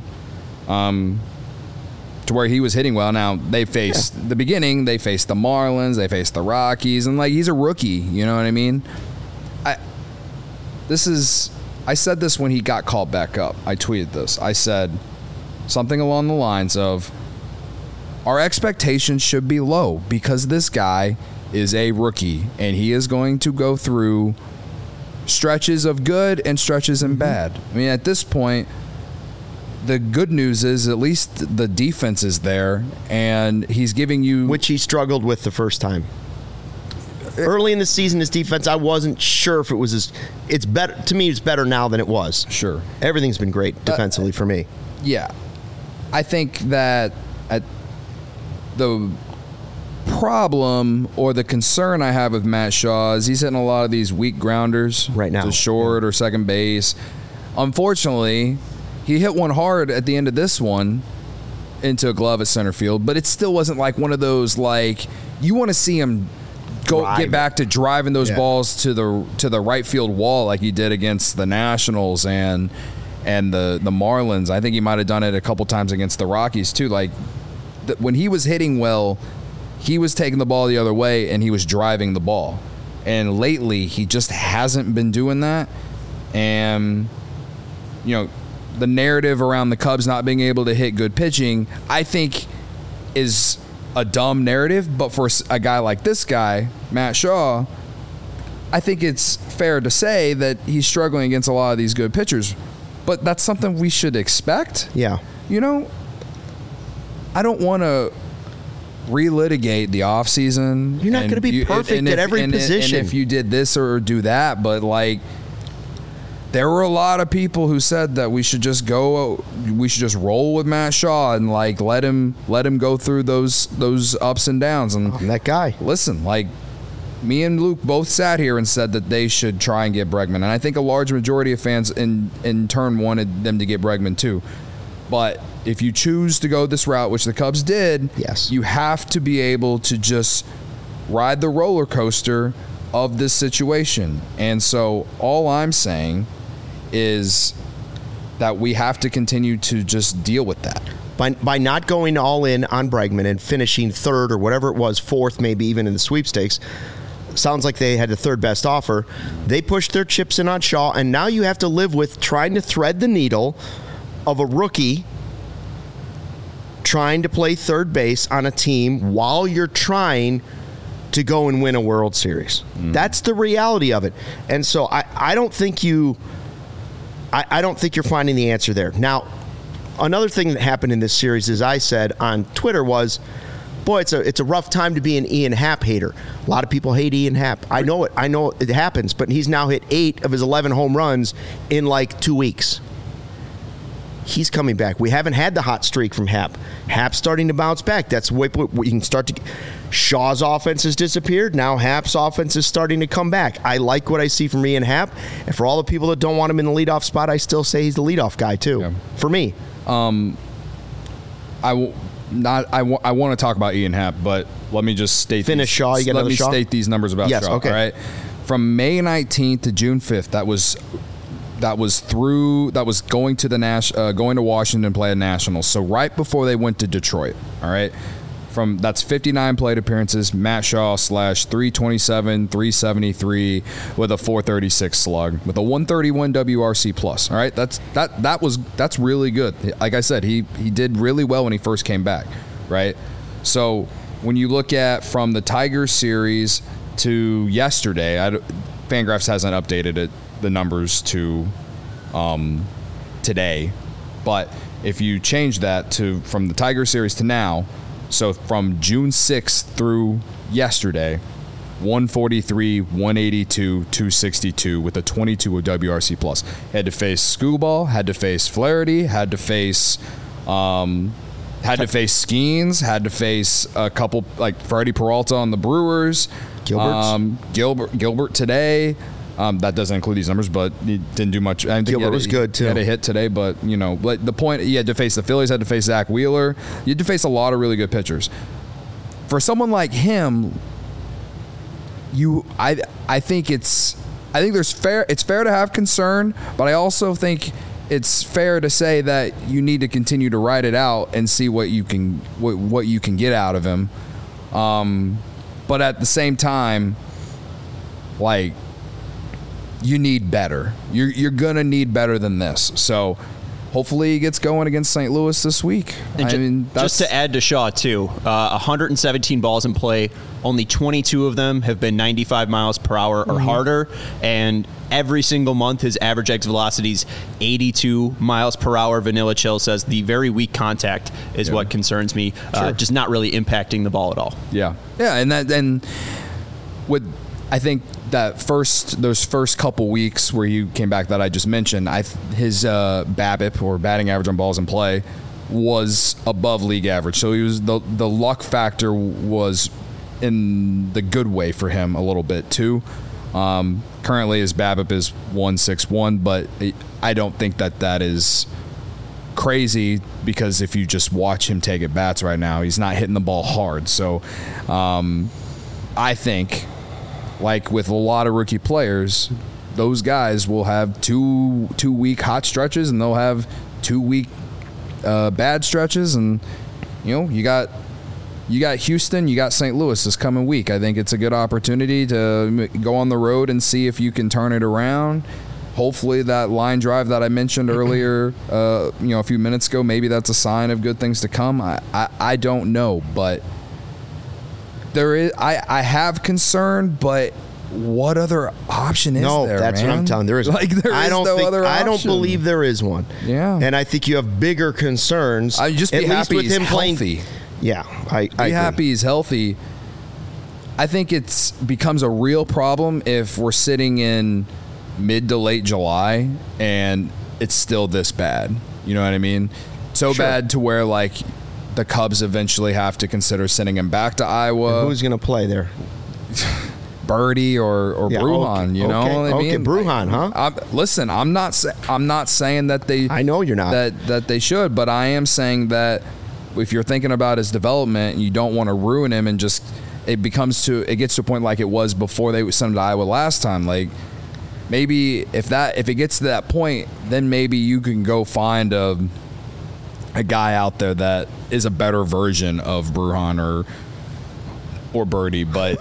to where he was hitting well. Now they faced the beginning. They faced the Marlins. They faced the Rockies, and like he's a rookie. You know what I mean? I said this when he got called back up. I tweeted this. I said something along the lines of, our expectations should be low because this guy is a rookie and he is going to go through stretches of good and stretches of bad. I mean, at this point, the good news is at least the defense is there and he's giving you... Which he struggled with the first time. Early in the season, his defense, I wasn't sure if it was it's better. To me, it's better now than it was. Sure. Everything's been great defensively for me. Yeah. I think that the problem or the concern I have with Matt Shaw is he's hitting a lot of these weak grounders right now to short or second base. Unfortunately, he hit one hard at the end of this one into a glove at center field, but it still wasn't like one of those, like, you want to see him get back to driving those balls to the right field wall like he did against the Nationals and the Marlins. I think he might have done it a couple times against the Rockies too. Like when he was hitting well, he was taking the ball the other way and he was driving the ball. And lately he just hasn't been doing that. And the narrative around the Cubs not being able to hit good pitching, I think is a dumb narrative, but for a guy like this guy, Matt Shaw, I think it's fair to say that he's struggling against a lot of these good pitchers. But that's something we should expect. Yeah. I don't want to relitigate the offseason. You're not going to be perfect at every position. And if you did this or do that, but like, there were a lot of people who said that we should just roll with Matt Shaw and like let him go through those ups and downs. And I'm that guy. Listen, like me and Luke both sat here and said that they should try and get Bregman, and I think a large majority of fans in turn wanted them to get Bregman too. But if you choose to go this route, which the Cubs did, yes, you have to be able to just ride the roller coaster of this situation. And so all I'm saying is that we have to continue to just deal with that. By not going all in on Bregman and finishing third or whatever it was, fourth, maybe even in the sweepstakes, sounds like they had the third best offer. They pushed their chips in on Shaw, and now you have to live with trying to thread the needle of a rookie trying to play third base on a team while you're trying to go and win a World Series. That's the reality of it. And so I don't think you're finding the answer there. Now, another thing that happened in this series, as I said on Twitter, was, boy, it's a rough time to be an Ian Happ hater. A lot of people hate Ian Happ. I know it happens, but he's now hit 8 of his 11 home runs in like 2 weeks. He's coming back. We haven't had the hot streak from Happ. Happ's starting to bounce back. That's what you can start to. Shaw's offense has disappeared. Now Happ's offense is starting to come back. I like what I see from Ian Happ. And for all the people that don't want him in the leadoff spot, I still say he's the leadoff guy too. Yeah. For me. I want to talk about Ian Happ, but let me just state Shaw. You got let me Shaw? State these numbers about Shaw. Okay. All right. From May 19th to June 5th, that was going to Washington to play a Nationals. So right before they went to Detroit. All right. That's 59 plate appearances. Matt Shaw /327, 373 with a 436 slug with a 131 WRC plus. All right, that's really good. Like I said, he did really well when he first came back. Right. So when you look at from the Tigers series to yesterday, Fangraphs hasn't updated the numbers to today, but if you change that from the Tigers series to now. So from June 6th through yesterday, 143, 182, 262 with a 22 WRC plus. Had to face Skubal, had to face Flaherty, had to face Skeens, had to face a couple like Freddie Peralta on the Brewers, Gilbert today. That doesn't include these numbers, but he didn't do much. I think Gilbert was good, too. He had a hit today, but, the point, he had to face the Phillies, had to face Zach Wheeler. You had to face a lot of really good pitchers. For someone like him, I think it's I think it's fair to have concern, but I also think it's fair to say that you need to continue to ride it out and see what you can get out of him. But at the same time, like, you need better. You're gonna need better than this. So hopefully he gets going against St. Louis this week. And just to add to Shaw, too, 117 balls in play, only 22 of them have been 95 miles per hour or harder, and every single month his average exit velocity is 82 miles per hour. Vanilla Chill says the very weak contact is what concerns me, just not really impacting the ball at all. Yeah, and I think that those first couple weeks where he came back that I just mentioned, his BABIP, or batting average on balls in play, was above league average. So he was the luck factor was in the good way for him a little bit too. Currently his BABIP is 161, but I don't think that is crazy, because if you just watch him take at bats right now, he's not hitting the ball hard. So I think, like with a lot of rookie players, those guys will have two week hot stretches, and they'll have 2 week bad stretches. And you got Houston, you got St. Louis this coming week. I think it's a good opportunity to go on the road and see if you can turn it around. Hopefully that line drive that I mentioned earlier, a few minutes ago, maybe that's a sign of good things to come. I don't know, but I have concern, but what other option is there? No, that's man? what I'm telling you. There is. I don't believe there is one. Yeah, and I think you have bigger concerns. I just be happy with him healthy. Yeah, I be happy he's healthy. I think it becomes a real problem if we're sitting in mid to late July and it's still this bad. You know what I mean? So bad to where, like, the Cubs eventually have to consider sending him back to Iowa. And who's going to play there? Birdie or Brujan, you know what I mean? Okay, Brujan, huh? Listen, I'm not saying that they. I know you're not. That they should, but I am saying that if you're thinking about his development and you don't want to ruin him, and just it gets to a point like it was before they sent him to Iowa last time. Like, maybe if it gets to that point, then maybe you can go find a guy out there that is a better version of Brujan or Birdie, but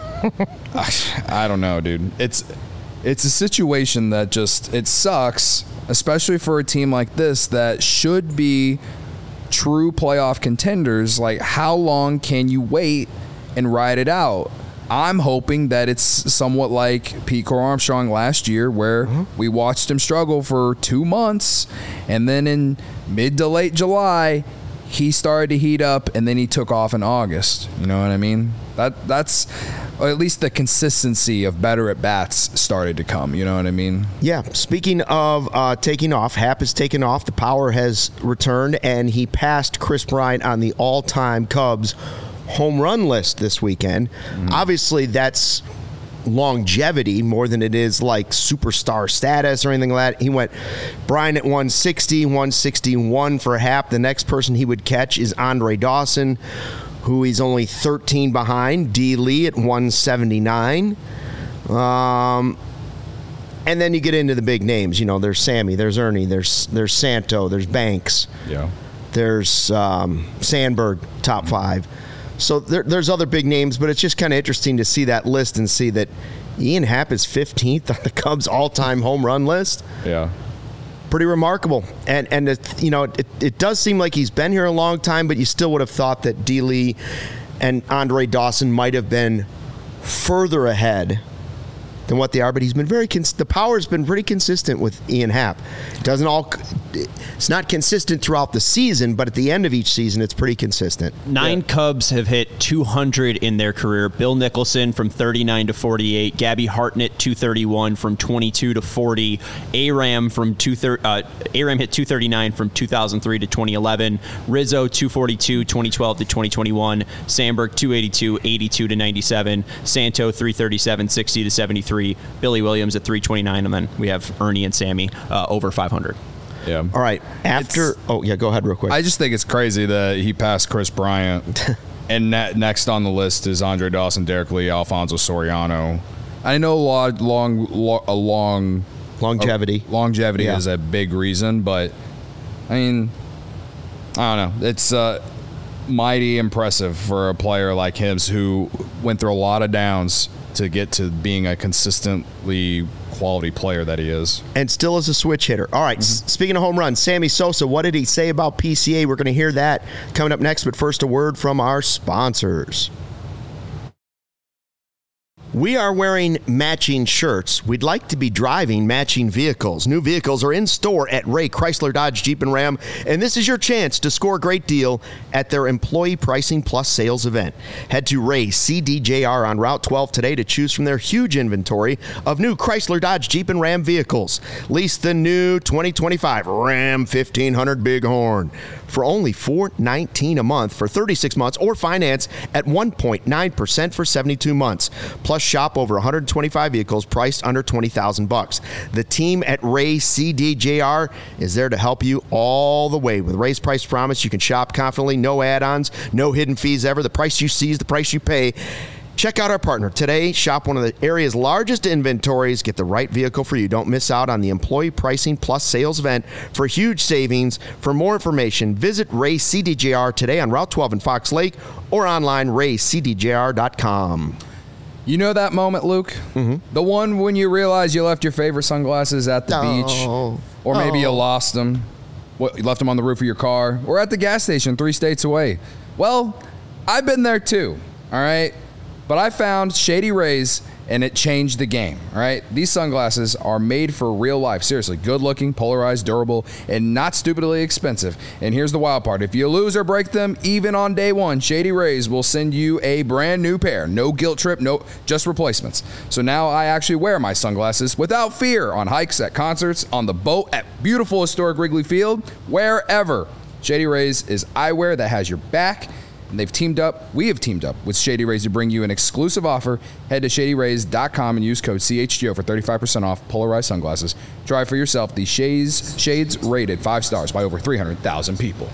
I don't know, dude. It's a situation that just, it sucks, especially for a team like this that should be true playoff contenders. Like, how long can you wait and ride it out? I'm hoping that it's somewhat like Pete Crow Armstrong last year, where we watched him struggle for 2 months, and then in mid to late July, he started to heat up, and then he took off in August. You know what I mean? That's, or at least the consistency of better at bats started to come. You know what I mean? Yeah. Speaking of taking off, Happ has taken off. The power has returned, and he passed Chris Bryant on the all-time Cubs home run list this weekend. Obviously, that's longevity more than it is like superstar status or anything like that. He went Bryant at 160, 161 for Happ. The next person he would catch is Andre Dawson, who he's only 13 behind. D. Lee at 179. And then you get into the big names. You know, there's Sammy, there's Ernie, there's Santo, there's Banks. Yeah. There's Sandberg, top 5. So there's other big names, but it's just kind of interesting to see that list and see that Ian Happ is 15th on the Cubs all-time home run list. Yeah. Pretty remarkable. And it does seem like he's been here a long time, but you still would have thought that D. Lee and Andre Dawson might have been further ahead than what they are, but he's been the power's been pretty consistent with Ian Happ. It's not consistent throughout the season, but at the end of each season, it's pretty consistent. 9 Cubs have hit 200 in their career. Bill Nicholson from 39 to 48. Gabby Hartnett 231 from 22 to 40. Aram hit 239 from 2003 to 2011. Rizzo 242 2012 to 2021. Sandberg 282 82 to 97. Santo 337 60 to 73. Billy Williams at 329, and then we have Ernie and Sammy over 500. Yeah. All right. Go ahead real quick. I just think it's crazy that he passed Chris Bryant, and next on the list is Andre Dawson, Derek Lee, Alfonso Soriano, I know longevity Yeah. is a big reason, but I mean, I don't know. It's mighty impressive for a player like him who went through a lot of downs to get to being a consistently quality player that he is. And still is a switch hitter. All right, speaking of home runs, Sammy Sosa, what did he say about PCA? We're going to hear that coming up next, but first a word from our sponsors. We are wearing matching shirts. We'd like to be driving matching vehicles. New vehicles are in store at Ray Chrysler Dodge Jeep and Ram, and this is your chance to score a great deal at their Employee Pricing Plus sales event. Head to Ray CDJR on Route 12 today to choose from their huge inventory of new Chrysler Dodge Jeep and Ram vehicles. Lease the new 2025 Ram 1500 Bighorn for only $419 a month for 36 months, or finance at 1.9% for 72 months. Plus, shop over 125 vehicles priced under $20,000. The team at Ray CDJR is there to help you all the way. With Ray's Price Promise, you can shop confidently, no add-ons, no hidden fees ever. The price you see is the price you pay. Check out our partner today. Shop one of the area's largest inventories. Get the right vehicle for you. Don't miss out on the Employee Pricing Plus sales event for huge savings. For more information, visit Ray CDJR today on Route 12 in Fox Lake or online raycdjr.com. You know that moment, Luke? Mm-hmm. The one when you realize you left your favorite sunglasses at the beach, or maybe you lost them. You left them on the roof of your car, or at the gas station 3 states away. Well, I've been there too, all right? But I found Shady Rays, and it changed the game, all right? These sunglasses are made for real life. Seriously, good-looking, polarized, durable, and not stupidly expensive. And here's the wild part. If you lose or break them, even on day one, Shady Rays will send you a brand new pair. No guilt trip, no, just replacements. So now I actually wear my sunglasses without fear on hikes, at concerts, on the boat, at beautiful historic Wrigley Field, wherever. Shady Rays is eyewear that has your back. And we have teamed up with Shady Rays to bring you an exclusive offer. Head to shadyrays.com and use code CHGO for 35% off polarized sunglasses. Try for yourself the Shades rated 5 stars by over 300,000 people.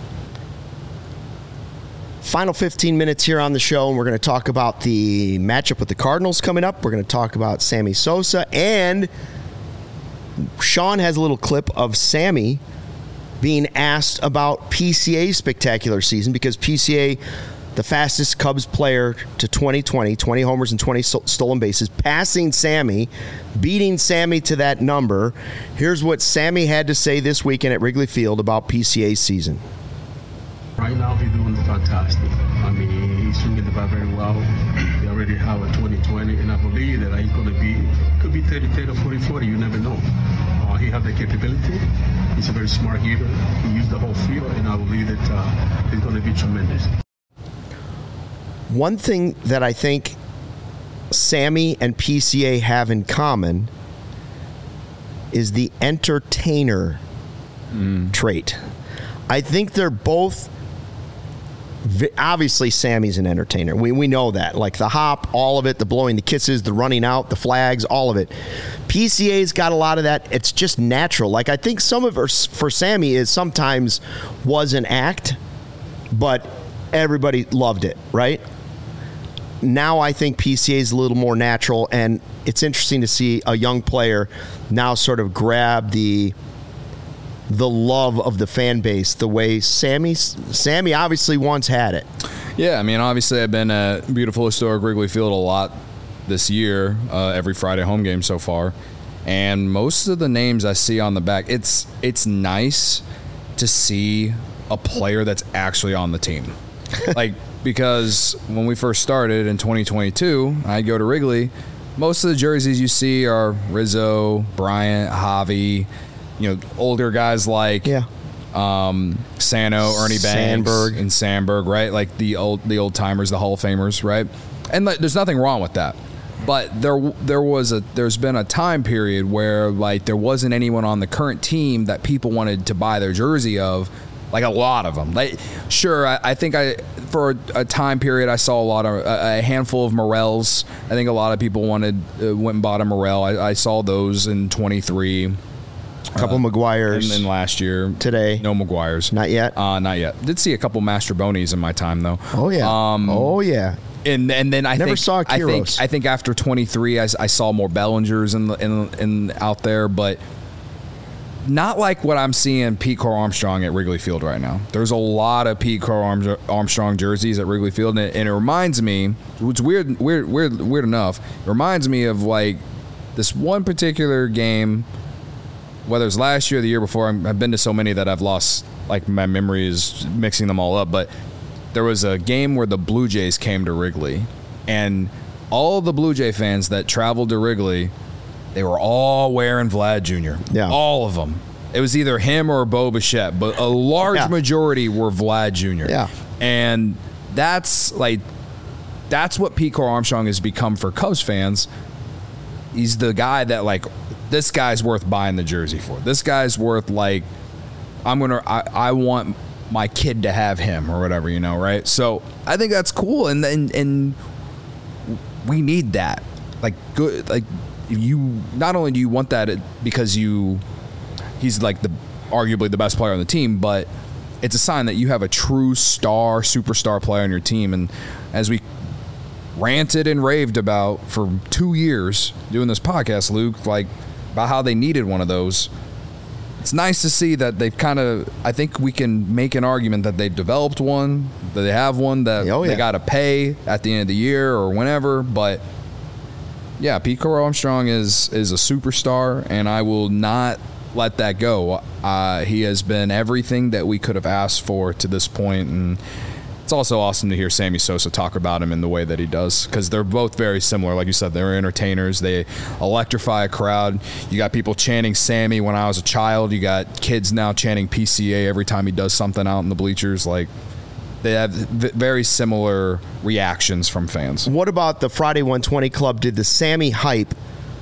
Final 15 minutes here on the show, and we're going to talk about the matchup with the Cardinals coming up. We're going to talk about Sammy Sosa, and Sean has a little clip of Sammy being asked about PCA's spectacular season, because PCA, the fastest Cubs player to 2020, 20 homers and 20 stolen bases, passing Sammy, beating Sammy to that number. Here's what Sammy had to say this weekend at Wrigley Field about PCA's season. Right now, he's doing fantastic. I mean, he's swinging the bat very well. He already have a 20-20, and I believe that he's going to be, could be 30-30 or 40-40, you never know. He has the capability. He's a very smart hitter. He used the whole field, and I believe that he's going to be tremendous. One thing that I think Sammy and PCA have in common is the entertainer trait. I think they're both, obviously Sammy's an entertainer. We know that. Like the hop, all of it, the blowing the kisses, the running out, the flags, all of it. PCA's got a lot of that. It's just natural. Like I think some of it for Sammy is sometimes was an act, but everybody loved it, right? Now I think PCA is a little more natural, and it's interesting to see a young player now sort of grab the love of the fan base the way Sammy obviously once had it. Yeah, I mean, obviously I've been at beautiful historic Wrigley Field a lot this year, every Friday home game so far, and most of the names I see on the back, it's nice to see a player that's actually on the team. Like, because when we first started in 2022, I go to Wrigley, most of the jerseys you see are Rizzo, Bryant, Javi, older guys like Sano, Ernie Banks, and Sandberg, right? Like the old timers, the Hall of Famers, right? And there's nothing wrong with that. But there's been a time period where like there wasn't anyone on the current team that people wanted to buy their jersey of, like a lot of them. Like, sure, I think for a time period I saw a handful of Morels. I think a lot of people went and bought a Morel. I saw those in 23. A couple Maguires. And then last year. Today. No Maguires. Not yet? Not yet. Did see a couple Mastrobonis in my time, though. Oh, yeah. And then I Never think saw Quiros. I think after 23, I saw more Bellingers in out there, but not like what I'm seeing Pete Crow Armstrong at Wrigley Field right now. There's a lot of Pete Crow Armstrong jerseys at Wrigley Field, and it reminds me. It's weird enough. It reminds me of like this one particular game, whether it's last year or the year before. I've been to so many that I've lost. Like my memory is mixing them all up, but there was a game where the Blue Jays came to Wrigley, and all the Blue Jay fans that traveled to Wrigley, they were all wearing Vlad Jr. Yeah. All of them. It was either him or Bo Bichette, but a large majority were Vlad Jr. Yeah. And that's what Pete Crow Armstrong has become for Cubs fans. He's the guy that, like, this guy's worth buying the jersey for. This guy's worth, like, I want my kid to have him or whatever, right? So I think that's cool, and we need that. Like, good, like, you not only do you want that because he's like arguably the best player on the team, but it's a sign that you have a true superstar player on your team. And as we ranted and raved about for 2 years doing this podcast, Luke, like, about how they needed one of those. It's nice to see that they've I think we can make an argument that they've developed one, that they have one that they got to pay at the end of the year or whenever. But yeah, Pete Crow Armstrong is a superstar, and I will not let that go. He has been everything that we could have asked for to this point, and it's also awesome to hear Sammy Sosa talk about him in the way that he does, because they're both very similar. Like you said, they're entertainers. They electrify a crowd. You got people chanting Sammy when I was a child. You got kids now chanting PCA every time he does something out in the bleachers. Like, they have very similar reactions from fans. What about the Friday 120 Club? Did the Sammy hype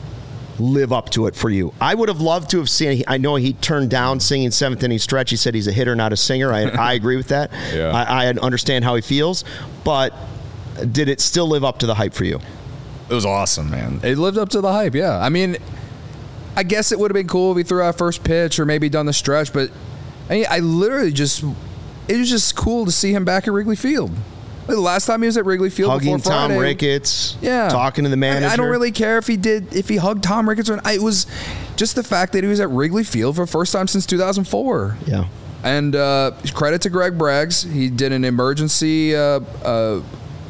live up to it for you? I would have loved to have seen. I know he turned down singing Seventh Inning Stretch. He said he's a hitter, not a singer. I agree with that. Yeah. I understand how he feels, but did it still live up to the hype for you? It was awesome, man. It lived up to the hype, yeah. I mean, I guess it would have been cool if he threw out first pitch or maybe done the stretch, but I literally just, it was just cool to see him back at Wrigley Field. The last time he was at Wrigley Field hugging before Friday, Tom Ricketts, yeah, talking to the manager. I don't really care if he hugged Tom Ricketts or not. It was just the fact that he was at Wrigley Field for the first time since 2004. Yeah. And credit to Greg Braggs. He did an emergency art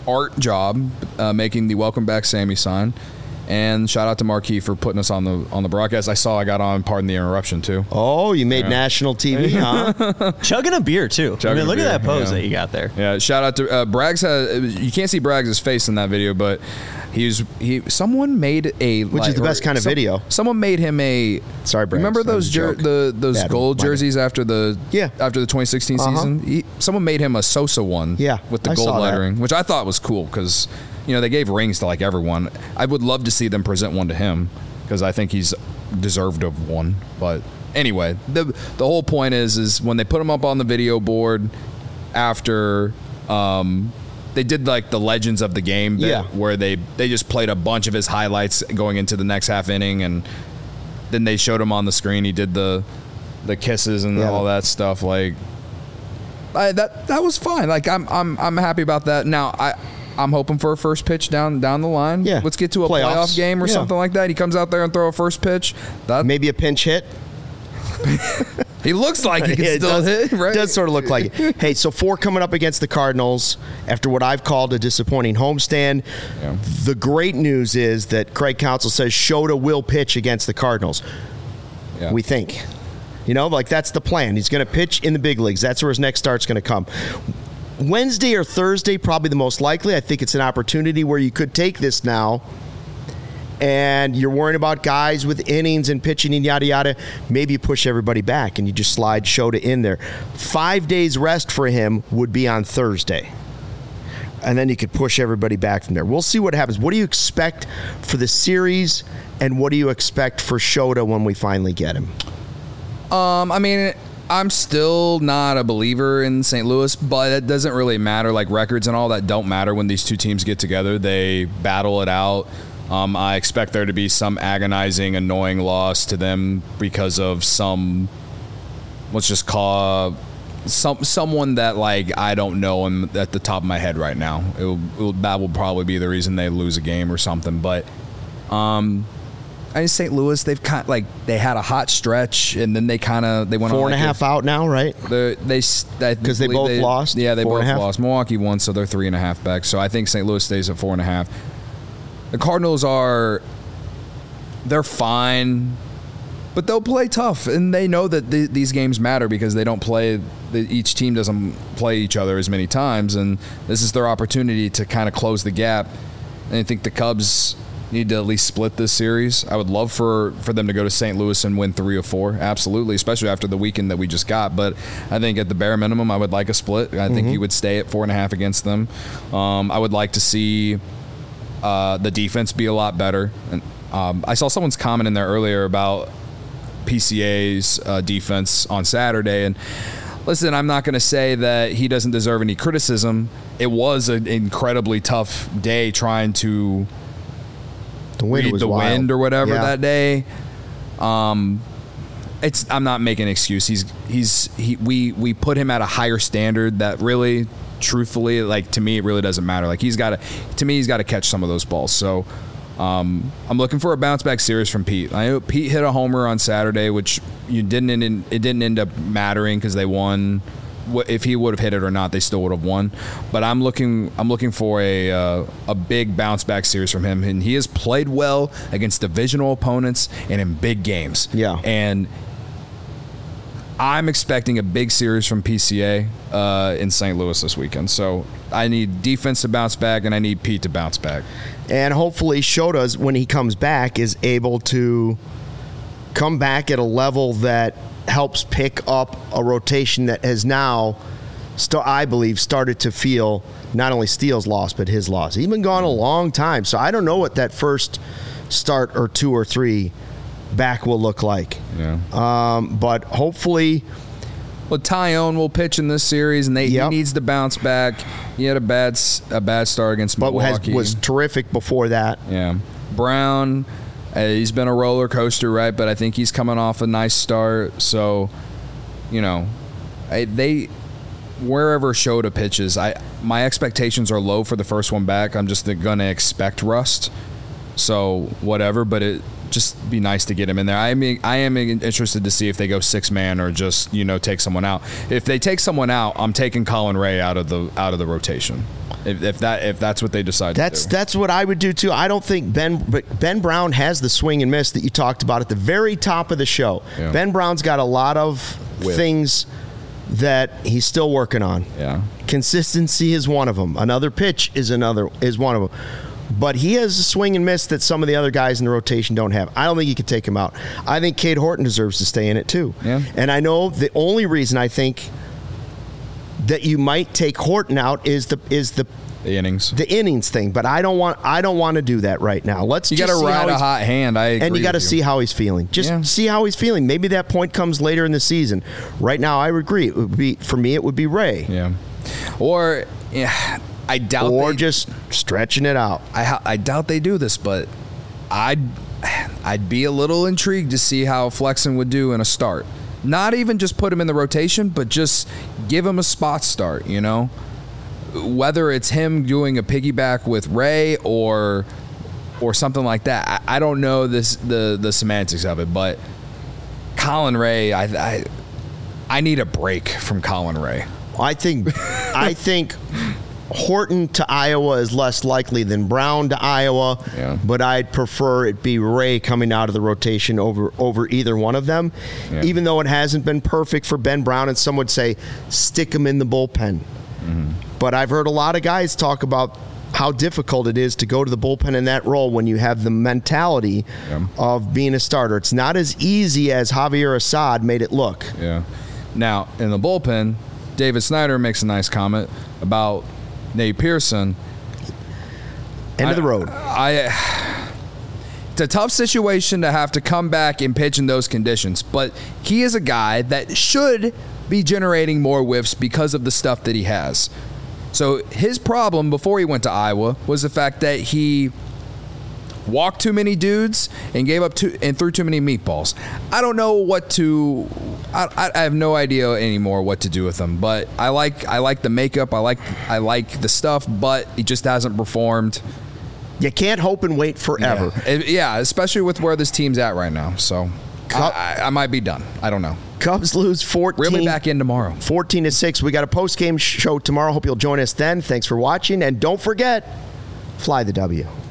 job making the Welcome Back Sammy sign. And shout out to Marquis for putting us on the broadcast. I got on, pardon the interruption, too. Oh, you made national TV, huh? Chugging a beer, too. Look at that pose that you got there. Yeah, shout out to Braggs. You can't see Braggs' face in that video, but someone made a... Which is the best kind of video. Someone made him a... Sorry, Braggs. Remember those gold jerseys after the 2016 season? Someone made him a Sosa one with the gold lettering, which I thought was cool because... they gave rings to like everyone. I would love to see them present one to him because I think he's deserved of one. But anyway, the whole point is when they put him up on the video board after they did like the Legends of the Game bit where they just played a bunch of his highlights going into the next half inning, and then they showed him on the screen. He did the kisses and all that stuff. Like that was fine. Like I'm happy about that. Now I'm hoping for a first pitch down the line. Yeah. Let's get to a playoff game or something like that. He comes out there and throw a first pitch. Maybe a pinch hit. He looks like he can still hit, right? It does sort of look like it. Hey, so 4 coming up against the Cardinals after what I've called a disappointing homestand. Yeah. The great news is that Craig Counsell says Shota will pitch against the Cardinals. Yeah. We think. Like that's the plan. He's going to pitch in the big leagues. That's where his next start's going to come. Wednesday or Thursday, probably the most likely. I think it's an opportunity where you could take this now, and you're worrying about guys with innings and pitching and yada, yada. Maybe you push everybody back and you just slide Shota in there. 5 days rest for him would be on Thursday. And then you could push everybody back from there. We'll see what happens. What do you expect for the series, and what do you expect for Shota when we finally get him? I'm still not a believer in St. Louis, but it doesn't really matter. Like records and all that don't matter when these two teams get together. They battle it out. I expect there to be some agonizing, annoying loss to them because of some, let's someone that like I don't know him at the top of my head right now. That will probably be the reason they lose a game or something. But I think St. Louis, they've kind of, like, they had a hot stretch and then they went 4.5 out now, right? Because they both lost. Yeah, they both 4.5? lost. Milwaukee won, so they're 3.5 back. So I think St. Louis stays at 4.5. The Cardinals they're fine, but they'll play tough, and they know that these games matter because they don't play. Each team doesn't play each other as many times, and this is their opportunity to kind of close the gap. And I think the Cubs need to at least split this series. I would love for them to go to St. Louis and win 3 or 4, absolutely, especially after the weekend that we just got. But I think at the bare minimum, I would like a split. I think he would stay at 4.5 against them. I would like to see the defense be a lot better. And I saw someone's comment in there earlier about PCA's defense on Saturday, and listen, I'm not going to say that he doesn't deserve any criticism. It was an incredibly tough day trying to read the wind or whatever that day. I'm not making an excuse. We put him at a higher standard that really, truthfully, like, to me, it really doesn't matter. Like, he's got to catch some of those balls. So I'm looking for a bounce back series from Pete. I know Pete hit a homer on Saturday, which it didn't end up mattering because they won. If he would have hit it or not, they still would have won. But I'm looking for a big bounce back series from him, and he has played well against divisional opponents and in big games. Yeah, and I'm expecting a big series from PCA in St. Louis this weekend. So I need defense to bounce back, and I need Pete to bounce back. And hopefully Shota, when he comes back, is able to come back at a level that helps pick up a rotation that has now, I believe, started to feel not only Steele's loss, but his loss. He's been gone a long time, so I don't know what that first start or 2 or 3 back will look like. Yeah. But hopefully... Well, Tyone will pitch in this series, and he needs to bounce back. He had a bad start against Milwaukee. But was terrific before that. Yeah. Brown... he's been a roller coaster, right? But I think he's coming off a nice start. So, wherever Shota pitches, my expectations are low for the first one back. I'm just going to expect rust. So whatever, but it just be nice to get him in there. I am interested to see if they go 6-man or just take someone out. If they take someone out, I'm taking Colin Ray out of the rotation. If that's what they decide to do. That's what I would do too. I don't think Ben Brown has the swing and miss that you talked about at the very top of the show. Yeah. Ben Brown's got a lot of things that he's still working on. Yeah. Consistency is one of them. Another pitch is one of them. But he has a swing and miss that some of the other guys in the rotation don't have. I don't think you could take him out. I think Cade Horton deserves to stay in it too. Yeah. And I know the only reason I think that you might take Horton out is the innings thing, but I don't want to do that right now. You got to ride a hot hand. And you got to see how he's feeling. See how he's feeling. Maybe that point comes later in the season. Right now, I agree. It would be Ray. Yeah. Or I doubt. Or just stretching it out. I doubt they do this, but I'd be a little intrigued to see how Flexen would do in a start. Not even just put him in the rotation, but just give him a spot start, Whether it's him doing a piggyback with Ray or something like that. I don't know the semantics of it, but Colin Ray, I need a break from Colin Ray. I think Horton to Iowa is less likely than Brown to Iowa, but I'd prefer it be Ray coming out of the rotation over either one of them, even though it hasn't been perfect for Ben Brown, and some would say stick him in the bullpen. Mm-hmm. But I've heard a lot of guys talk about how difficult it is to go to the bullpen in that role when you have the mentality of being a starter. It's not as easy as Javier Assad made it look. Yeah. Now, in the bullpen, David Snyder makes a nice comment about Nate Pearson. End of the road. It's a tough situation to have to come back and pitch in those conditions, but he is a guy that should be generating more whiffs because of the stuff that he has. So his problem before he went to Iowa was the fact that he walked too many dudes and threw too many meatballs. I don't know what to. I have no idea anymore what to do with him. But I like the makeup. I like the stuff, but he just hasn't performed. You can't hope and wait forever. Yeah, especially with where this team's at right now. So I might be done. I don't know. Cubs lose 14. Reel me back in tomorrow. 14-6. We got a post-game show tomorrow. Hope you'll join us then. Thanks for watching. And don't forget, fly the W.